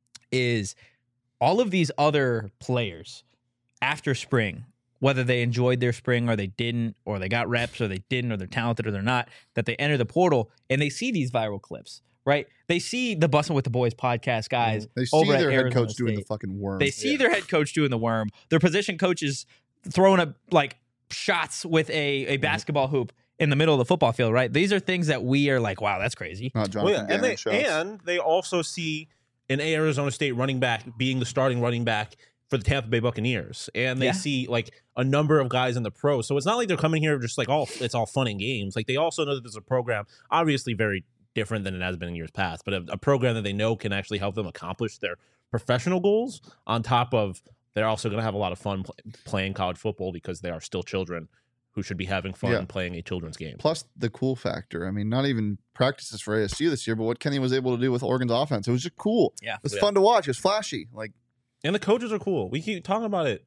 Is all of these other players after spring, whether they enjoyed their spring or they didn't, or they got reps or they didn't, or they're talented or they're not, that they enter the portal and they see these viral clips, right? They see the Bussin' with the Boys podcast guys. They see over at their head Arizona coach doing the State. fucking worm. They see Yeah. their head coach doing the worm. Their position coaches throwing a like shots with a, a basketball hoop in the middle of the football field, right? These are things that we are like, wow, that's crazy. Not Well, Jonathan yeah, and they Gannon shots. and they also see an Arizona State running back being the starting running back for the Tampa Bay Buccaneers, and they Yeah. see like a number of guys in the pros. So it's not like they're coming here just like all it's all fun and games. Like they also know that there's a program, obviously very different than it has been in years past, but a, a program that they know can actually help them accomplish their professional goals. On top of they're also going to have a lot of fun play, playing college football because they are still children who should be having fun Yeah. playing a children's game. Plus the cool factor. I mean, not even practices for A S U this year, but what Kenny was able to do with Oregon's offense. It was just cool. Yeah. It was Yeah. fun to watch. It was flashy. Like, And the coaches are cool. We keep talking about it.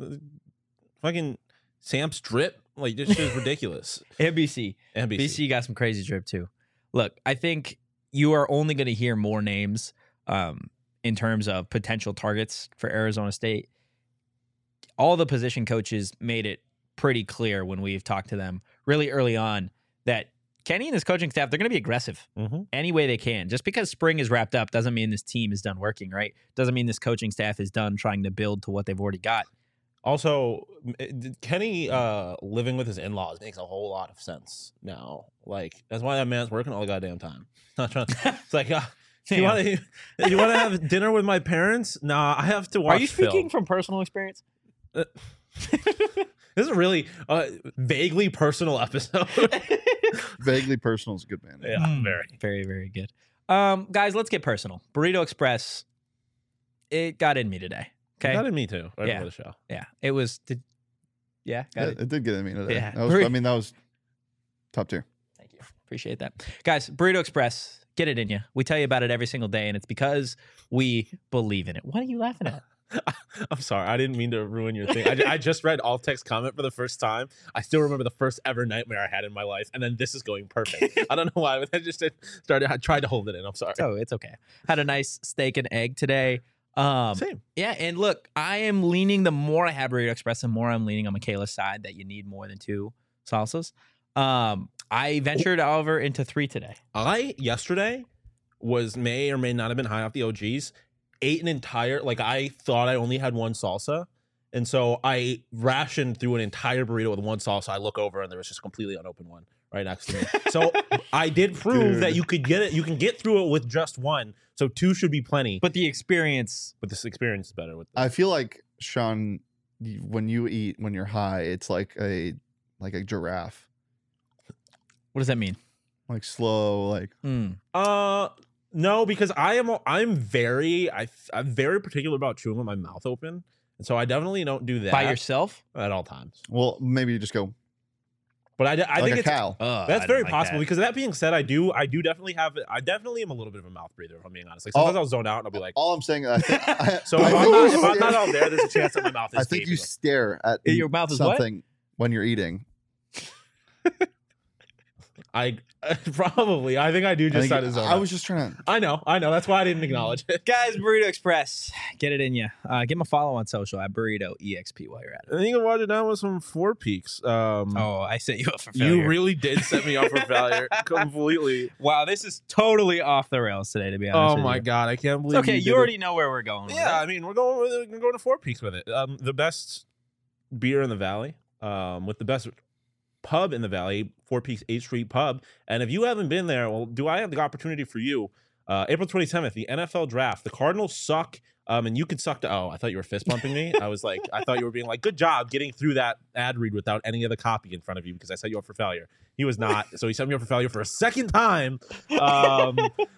Fucking Sam Strip. Like, this shit is ridiculous. And B C. N B C. B C got some crazy drip too. Look, I think you are only going to hear more names um, in terms of potential targets for Arizona State. All the position coaches made it pretty clear when we've talked to them really early on that Kenny and his coaching staff, they're going to be aggressive Mm-hmm. any way they can. Just because spring is wrapped up doesn't mean this team is done working, right? Doesn't mean this coaching staff is done trying to build to what they've already got. Also, m- Kenny uh, living with his in-laws makes a whole lot of sense now. Like, that's why that man's working all the goddamn time. Not trying. It's like, uh, you Damn. want to you want to have dinner with my parents? Nah, I have to watch. Are you speaking film. from personal experience? This is a really uh, vaguely personal episode. vaguely personal is a good man. yeah, Mm. very. Very, very good. Um, guys, let's get personal. Burrito Express, it got in me today. Okay. That in me too. Right Yeah. before the show. Yeah. It was, did, yeah, got Yeah, it. it did get in me today. Yeah. That was, I mean, that was top tier. Thank you. Appreciate that. Guys, Burrito Express, get it in you. We tell you about it every single day, and it's because we believe in it. What are you laughing at? I'm sorry. I didn't mean to ruin your thing. I, ju- I just read alt text comment for the first time. I still remember the first ever nightmare I had in my life, and then this is going perfect. I don't know why, but I just started. I tried to hold it in. I'm sorry. Oh, it's okay. Had a nice steak and egg today. Um, Same. Yeah, and look, I am leaning, the more I have Burrito Express, the more I'm leaning on Michaela's side that you need more than two salsas. Um, I ventured, however, into three today. I yesterday was may or may not have been high off the O Gs. Ate an entire like I thought I only had one salsa, and so I rationed through an entire burrito with one salsa. I look over and there was just a completely unopened one right next to me. So I did prove Dude. that you could get it. You can get through it with just one. So two should be plenty. But But the experience, but this experience is better with. I feel like, Sean, y- when you eat when you're high, it's like a like a giraffe, what does that mean? like slow, like Mm. Uh no, because I am I'm very I I'm very particular about chewing with my mouth open, and so I definitely don't do that By yourself? at all times. well, maybe you just go But I, I like think a it's cow. Oh, that's I very don't like possible that. because that being said, I do I do definitely have I definitely am a little bit of a mouth breather if I'm being honest. Like sometimes Oh. I'll zone out and I'll be like, All I'm saying, I think, I, so I if, I'm think not, you if I'm stare- not out there, there's a chance that my mouth is. I think you gaping. stare at Your mouth is what? something when you're eating. I probably. I think I do I, just think sign it- his own. I was just trying to. I know. I know. That's why I didn't acknowledge it. Guys, Burrito Express, get it in you. Uh, give him a follow on social at Burrito E X P while you're at it. And you can watch it down with some Four Peaks. Um, Oh, I set you up for failure. you really did set me up for failure completely. Wow, this is totally off the rails today, to be honest. Oh with my you. god, I can't It's believe. okay, you, you, did it. already know where we're going. with Yeah, it. I mean, we're going. With it. We're going to Four Peaks with it. Um, the best beer in the valley, um, with the best pub in the valley, Four Peaks eighth Street Pub. And if you haven't been there, well, do I have the opportunity for you? Uh, April twenty-seventh, the N F L draft. The Cardinals suck, um, and you can suck to. Oh, I thought you were fist bumping me. I was like, I thought you were being like, good job getting through that ad read without any of the copy in front of you because I set you up for failure. He was not, so he set me up for failure for a second time. Um,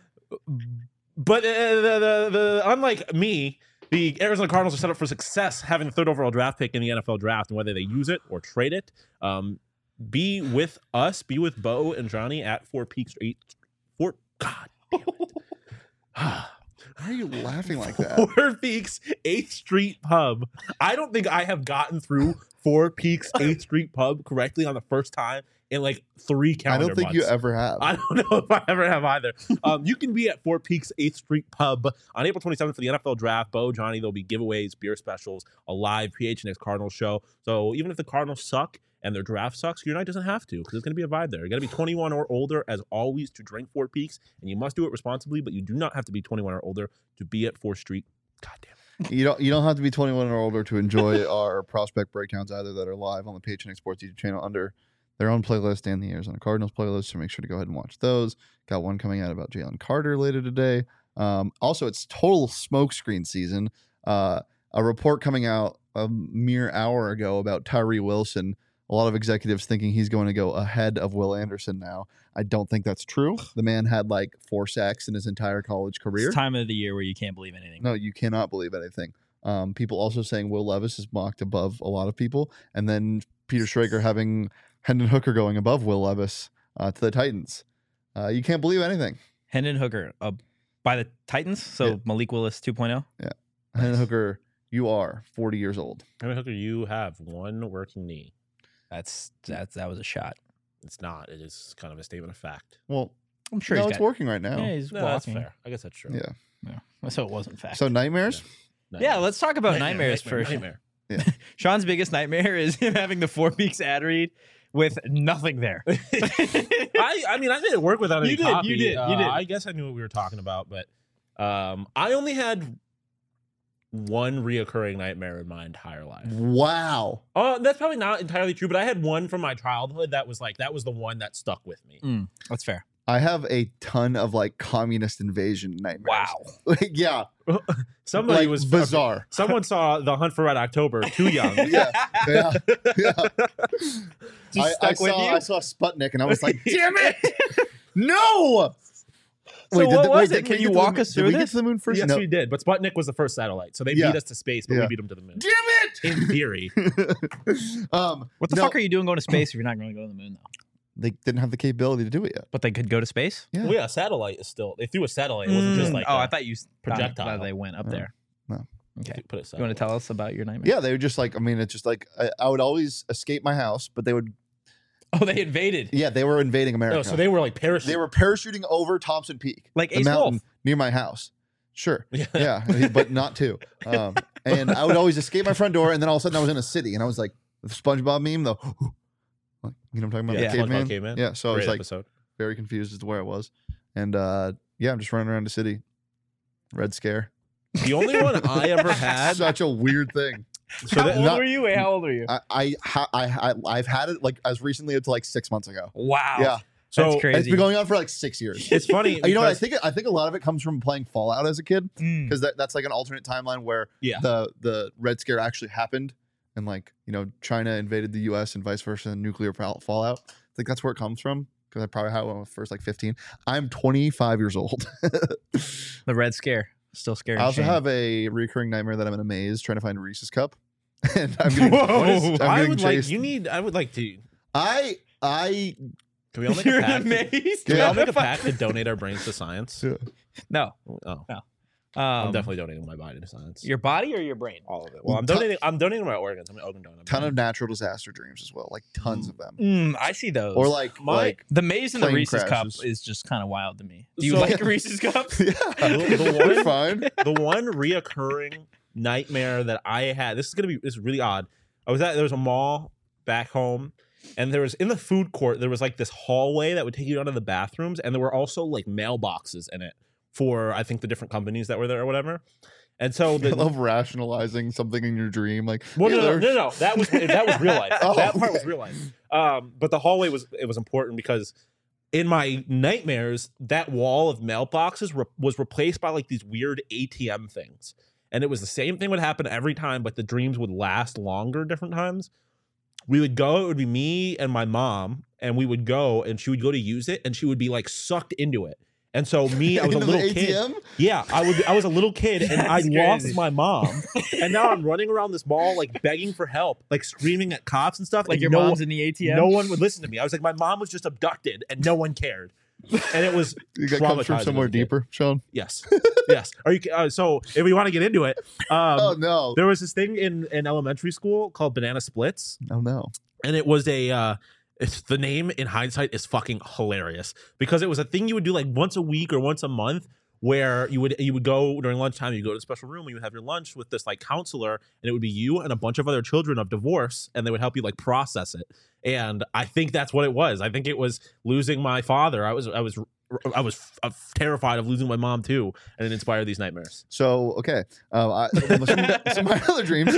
but uh, the, the the unlike me. The Arizona Cardinals are set up for success, having the third overall draft pick in the N F L draft, and whether they use it or trade it. Um, be with us, be with Bo and Johnny at Four Peaks eight. Four God, damn it. Why are you laughing like that? Four Peaks eighth Street Pub. I don't think I have gotten through Four Peaks eighth Street Pub correctly on the first time in like three I calendar don't think months. you ever have. I don't know if I ever have either. Um, you can be at Four Peaks eighth Street Pub on April twenty-seventh for the N F L Draft. Bo, Johnny, there'll be giveaways, beer specials, a live P H N X Cardinals show. So even if the Cardinals suck and their draft sucks, your night doesn't have to because there's going to be a vibe there. You got to be twenty-one or older, as always, to drink Four Peaks, and you must do it responsibly. But you do not have to be twenty-one or older to be at Fourth Street. God damn it. You don't. You don't have to be twenty-one or older to enjoy our prospect breakdowns either that are live on the P H N X Sports YouTube channel under their own playlist and the Arizona Cardinals playlist. So make sure to go ahead and watch those. Got one coming out about Jalen Carter later today. Um, also, it's total smokescreen season. Uh, a report coming out a mere hour ago about Tyree Wilson. A lot of executives thinking he's going to go ahead of Will Anderson now. I don't think that's true. The man had like four sacks in his entire college career. It's time of the year where you can't believe anything. No, you cannot believe anything. Um, people also saying Will Levis is mocked above a lot of people, and then Peter Schrager having Hendon Hooker going above Will Levis uh, to the Titans. Uh, you can't believe anything. Hendon Hooker uh, by the Titans, so Yeah. Malik Willis two point oh. Hendon Hooker, you are forty years old. I mean, Hooker, you have one working knee. That's that's that was a shot. It's not. It is kind of a statement of fact. Well, I'm sure no, he's it's got, working right now. Yeah, he's No, that's walking. fair. I guess that's true. Yeah. Yeah. So it wasn't fact. So nightmares? yeah, let's talk about Nightmare, nightmares nightmare, first. nightmare. Sean's biggest nightmare is him having the Four Peaks ad read with nothing there. I, I mean, I made it work without any You did, copy. you did, you Uh, did. I guess I knew what we were talking about, but um, I only had one reoccurring nightmare in my entire life. Wow. Oh, that's probably not entirely true, but I had one from my childhood that was like that was the one that stuck with me. Mm, that's fair. I have a ton of like communist invasion nightmares. Wow. Like, yeah. Somebody like, was bizarre. Someone saw The Hunt for Red October too young. Yeah. Yeah. Yeah. Just I, I stuck with saw, you? I saw Sputnik and I was like, damn it. No. So Wait, what the- was did it? we Can get you to the walk moon- us through Did we this? get to the moon first? Yes, No. we did. But Sputnik was the first satellite, so they Yeah. beat us to space, but Yeah. we beat them to the moon. Damn it. In theory, um, What the no, fuck are you doing going to space if you're not going to go to the moon, though? They didn't have the capability to do it yet. But they could go to space? Yeah. well, yeah, satellite is still. They threw a satellite. It wasn't just Mm, like oh, a I thought you s- projectile. thought they went up No. there. No. Okay. Put it You want to tell us about your nightmare? Yeah, they would just like. I mean, it's just like I, I would always escape my house, but they would. Oh, they invaded. Yeah, they were invading America. No, so they were like parachuting. They were parachuting over Thompson Peak, Like the Ace mountain Wolf. near my house. Sure. Yeah. Yeah, but not two. Um, and I would always escape my front door, and then all of a sudden I was in a city, and I was like the SpongeBob meme, though. Like, you know what I'm talking about? Yeah, The SpongeBob caveman. Caveman. Yeah. So I was Great like episode. very confused as to where I was, and uh, yeah, I'm just running around the city. Red Scare. The only one I ever had. Such a weird thing. So How that, old not- were you? Wait, how old were you? I I, ha- I I I've had it like as recently as like six months ago. Wow. Yeah, so That's it's crazy. been going on for like six years. it's funny. You know what? I because- think I think a lot of it comes from playing Fallout as a kid Mm. because that, that's like an alternate timeline where Yeah. the the Red Scare actually happened and like you know China invaded the U S and vice versa and nuclear fall- fallout. I think that's where it comes from because I probably had one when I was first like fifteen. I'm twenty-five years old. The Red Scare. Still scary. I also Shane. have a recurring nightmare that I'm in a maze trying to find a Reese's cup. And I'm getting, Whoa. What is- I'm I getting would chased. like. You need. I would like to. I I Can we all make You're a pact? amazed. Can we all Yeah. make a pact to donate our brains to science? Yeah. No. Oh, Um, I'm definitely donating my body to science. your body or your brain. all of it. Well, I'm Ton- donating. I'm donating my organs. I'm an organ donor. Ton of natural disaster dreams as well, like tons of them. Mm, I see those. Or like My- like the maze in the plane Reese's crashes. cup is just kind of wild to me. Do you So- like Reese's cups? yeah, The- the they're one- fine. the one reoccurring nightmare that I had. This is gonna be. This is really odd. I was at there was a mall back home, and there was in the food court there was like this hallway that would take you down to the bathrooms, and there were also like mailboxes in it for I think the different companies that were there or whatever. And so I the, love rationalizing something in your dream. Like, well, yeah, no, no, there's- no, no, that was that was real life. Oh, that part okay. was real life. Um, but the hallway was it was important because in my nightmares, that wall of mailboxes re- was replaced by like these weird A T M things, and it was the same thing would happen every time, but the dreams would last longer different times. We would go. It would be me and my mom, and we would go, and she would go to use it, and she would be like sucked into it. And so me, I was a Into the little A T kid. M? Yeah, I would. I was a little kid, and I That's lost crazy. my mom, and now I'm running around this mall like begging for help, like screaming at cops and stuff. Like and your no, mom's in the A T M? No one would listen to me. I was like, my mom was just abducted, and no one cared. And it was You got comes from traumatizing somewhere as a kid. deeper, Sean. Yes, yes. Are you? Uh, so if we want to get into it, um, oh no! there was this thing in in elementary school called banana splits, Oh no! and it was a. Uh, it's the name in hindsight is fucking hilarious because it was a thing you would do like once a week or once a month where you would you would go during lunchtime, you go to a special room and you would have your lunch with this like counselor, and it would be you and a bunch of other children of divorce, and they would help you like process it. And I think that's what it was. I think it was losing my father. I was I was I was f- terrified of losing my mom too, and it inspired these nightmares. So okay, um, I, some, some of my other dreams.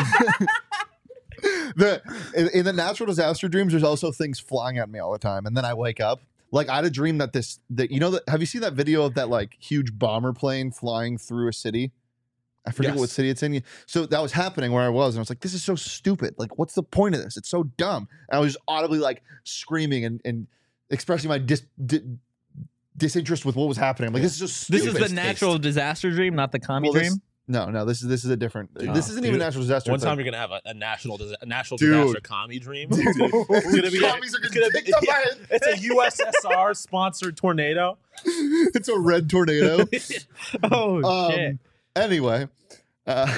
the in, in the natural disaster dreams, there's also things flying at me all the time, and then I wake up. Like I had a dream that this that you know that have you seen that video of that like huge bomber plane flying through a city? I forget Yes. what city it's in. So that was happening where I was, and I was like, "This is so stupid! Like, what's the point of this? It's so dumb!" And I was just audibly like screaming and, and expressing my dis, di, disinterest with what was happening. I'm like, "This is just This stupid." is the natural disaster dream, not the commie Well, this- dream. No, no, this is this is a different. Dude. this Oh, isn't even dude. natural disaster. One it's time like- you're gonna have a, a national dis- a national Dude. disaster commie dream. Dude. It's gonna be, it's gonna be Commies are it's getting gonna be- picked up by yeah, it's a U S S R sponsored tornado. it's a red tornado. Oh um, shit! Anyway, uh,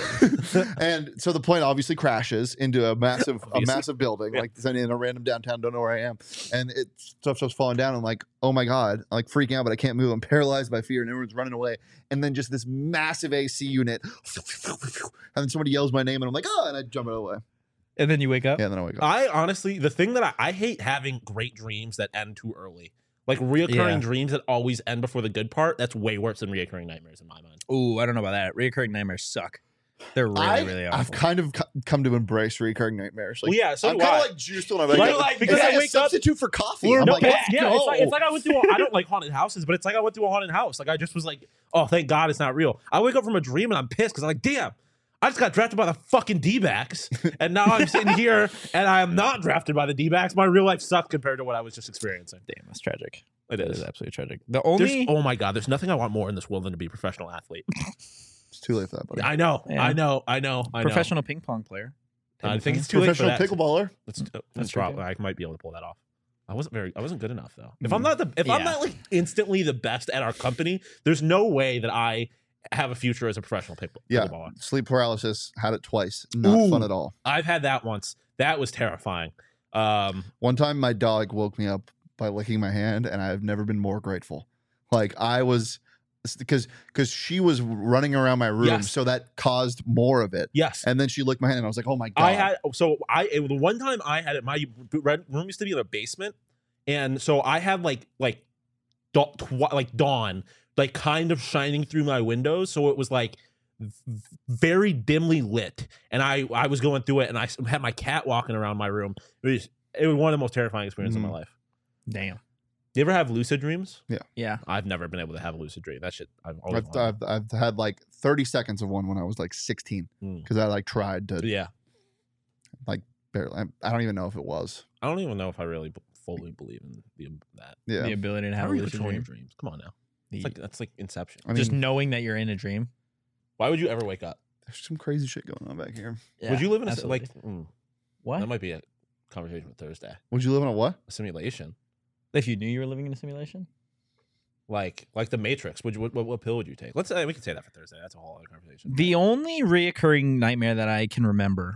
and so the plane obviously crashes into a massive, a Obviously. massive building, Yeah. like in a random downtown. Don't know where I am, and it stuff starts falling down. I'm like, oh my god, I'm like freaking out, but I can't move. I'm paralyzed by fear, and everyone's running away. And then just this massive A C unit, and then somebody yells my name, and I'm like, oh, and I jump out of the way. And then you wake up. Yeah, and then I wake up. I honestly, the thing that I, I hate having great dreams that end too early. Like reoccurring Yeah. dreams that always end before the good part. That's way worse than reoccurring nightmares in my mind. Ooh, I don't know about that. Reoccurring nightmares suck. They're really, I, really I've awful. kind of co- come to embrace recurring nightmares. Like, Well, yeah, so I'm do kind I. of like juiced when I wake Like- up. like, because it's I like a wake up- substitute for coffee. Well, I'm no, like, yeah, let's yeah, go. it's like it's like I went through. A, I don't like haunted houses, but it's like I went through a haunted house. Like I just was like, oh, thank God it's not real. I wake up from a dream and I'm pissed because I'm like, damn, I just got drafted by the fucking D-backs, and now I'm sitting here and I am not drafted by the D-backs. My real life sucked compared to what I was just experiencing. Damn, that's tragic. It That is. is absolutely tragic. The There's, only oh my God, there's nothing I want more in this world than to be a professional athlete. It's too late for that, buddy. I know, Yeah. I know, I know, I know. professional ping pong player. I think it's too late for Professional that. pickleballer. That's, uh, that's true, probably, I might be able to pull that off. I wasn't very, I wasn't good enough though. If I'm not the, if I'm Yeah. not like instantly the best at our company, there's no way that I have a future as a professional pick, Yeah, pickleballer. sleep paralysis. Had it twice. Not Ooh. fun at all. I've had that once. That was terrifying. Um, One time, my dog woke me up by licking my hand, and I've never been more grateful. Like I was, because because she was running around my room, Yes. so that caused more of it. yes. And then she licked my hand, and I was like, "Oh my god!" I had so I it- the one time I had it. My room used to be in a basement, and so I had like like da- tw- like dawn like kind of shining through my windows, so it was like v- very dimly lit, and I I was going through it, and I s- had my cat walking around my room. It was it was one of the most terrifying experiences Mhm. of my life. Damn. You ever have lucid dreams? Yeah. I've never been able to have a lucid dream. That shit. I've always I've, wanted. I've, I've had like thirty seconds of one when I was like sixteen Mm. because I like tried to Yeah, barely. I, I don't even know if it was. I don't even know if I really b- fully believe in the, that. Yeah, The ability to How have are a you lucid controlling your dream. dreams? Come on now. The- It's like that's like Inception. I mean, just knowing that you're in a dream. Why would you ever wake up? there's some crazy shit going on back here. would you live in a si- absolutely. like mm, what? that might be a conversation for Thursday. Would you live in a what? A simulation. If you knew you were living in a simulation? Like like the Matrix. Would you, what, what what pill would you take? Let's uh, we can say that for Thursday. That's a whole other conversation. The only reoccurring nightmare that I can remember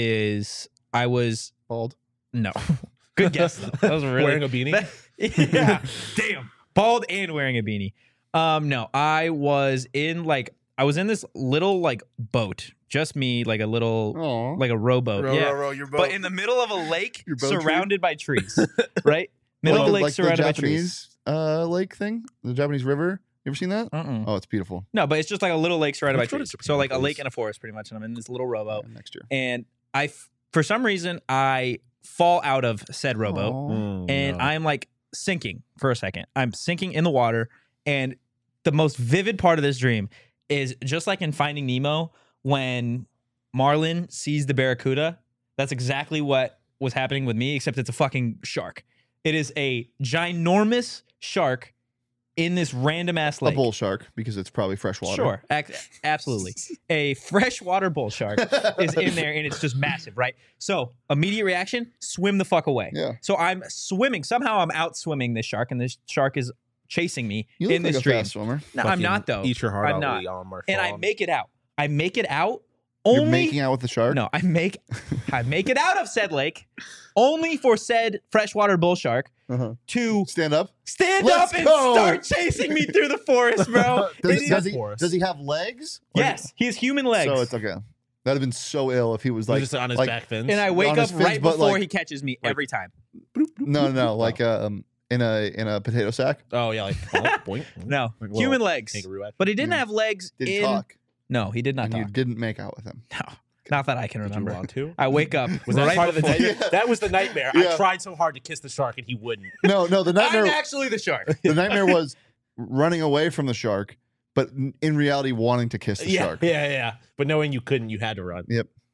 is I was Bald. no. Good guess though. That was really Wearing a beanie. that- yeah. Damn. Bald and wearing a beanie. Um, no, I was in like I was in this little like boat, just me, like a little Oh, like a rowboat. Row, yeah. row, row your boat. But in the middle of a lake Your boat tree? surrounded by trees. Right? Middle of a lake like the surrounded by trees. Japanese uh, lake thing, the Japanese river. You ever seen that? Uh-uh. Oh, it's beautiful. No, but it's just like a little lake surrounded by Let's go to trees. Japan, So like a please. lake and a forest pretty much. And I'm in this little rowboat. Yeah, next year. And I, f- for some reason, I fall out of said rowboat. Aw. Mm, And no. I'm like sinking for a second. I'm sinking in the water. And the most vivid part of this dream is just like in Finding Nemo when Marlin sees the barracuda. That's exactly what was happening with me, except it's a fucking shark. It is a ginormous shark in this random ass A lake. bull shark because it's probably freshwater. Sure, ac- absolutely. A freshwater bull shark is in there and it's just massive, right? So immediate reaction, swim the fuck away. Yeah. So I'm swimming. Somehow I'm out swimming this shark, and this shark is chasing me You look in like this a dream. fast swimmer. No, I'm Fucking not though. Eat your heart I'm out, not. Leon Marchand. And I make it out. I make it out You're only. making out with the shark. No, I make I make it out of said lake only for said freshwater bull shark Uh-huh. to Stand up. stand Let's up and go. start chasing me through the forest, bro. Does, It is- does he? forest. Does he have legs? Or- yes, he has human legs. So it's okay. That'd have been so ill if he was Like, like just on his like- back fins. and I wake on up his fins, right but, before like- he catches me like- every time. no, no, no, like um in a in a potato sack. oh yeah, like boink, boink. No, Like human little legs. kangaroo action. But he didn't Yeah. have legs Did in. talk, No, he did not and you talk. didn't make out with him. No, not that I can Did you remember. want to? I wake up. Was that right part of the before- nightmare? Yeah. That was the nightmare. Yeah. I tried so hard to kiss the shark and he wouldn't. No, no. The I'm nightmare. actually the shark. the nightmare was running away from the shark, but n- in reality wanting to kiss the yeah, shark. yeah, yeah. But knowing you couldn't, you had to run.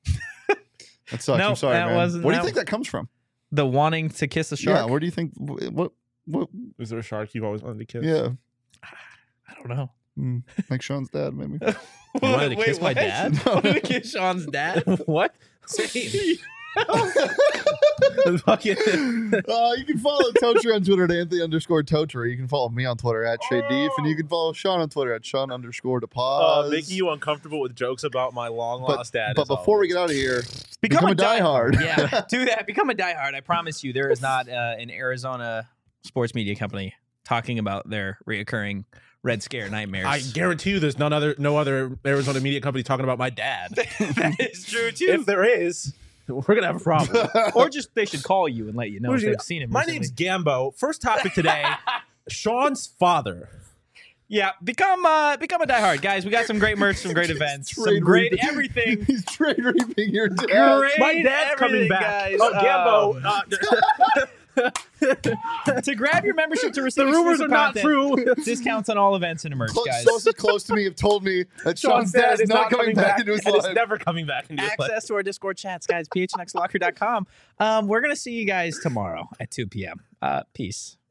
That sucks. No, I'm sorry, that man. wasn't- Where do you that- think that comes from? The wanting to kiss the Yeah. shark. Where do you think? wh- What? What? Was there a shark you've always wanted to kiss? Yeah. I don't know. Mm, like Sean's dad, maybe. You wanted to kiss my dad? I wanted to kiss Sean's dad. What? Same. Fucking. uh, you can follow Totri on Twitter at Anthony underscore Totri. You can follow me on Twitter at Shay Deef, and you can follow Sean on Twitter at Sean underscore Uh, DePaz. making you uncomfortable with jokes about my long lost dad. But is before we always- get out of here, Become, Become a diehard. Yeah, do that. Become a diehard. I promise you, there is not uh, an Arizona sports media company talking about their reoccurring Red Scare nightmares. I guarantee you, there's none other, no other Arizona media company talking about my dad. that is true too. If there is, we're gonna have a problem. Or just they should call you and let you know if Who's they've your- seen him. My recently. name's Gambo. First topic today: Sean's father. Yeah, become uh, become a diehard, guys. We got some great merch, some great events, some Trade great reaping. everything. He's trade reaping your dad. Great My dad's coming everything, back. guys. Oh, Gambo. Um, uh, to grab your membership to receive the rumors exclusive are not content, true. discounts on all events and merch, Close, guys. sources close to me have told me that Sean's dad is not coming back into his and it's life. never coming back into his life. Access to our Discord chats, guys. p h n x locker dot com. Um, we're gonna see you guys tomorrow at two p.m. Uh, peace.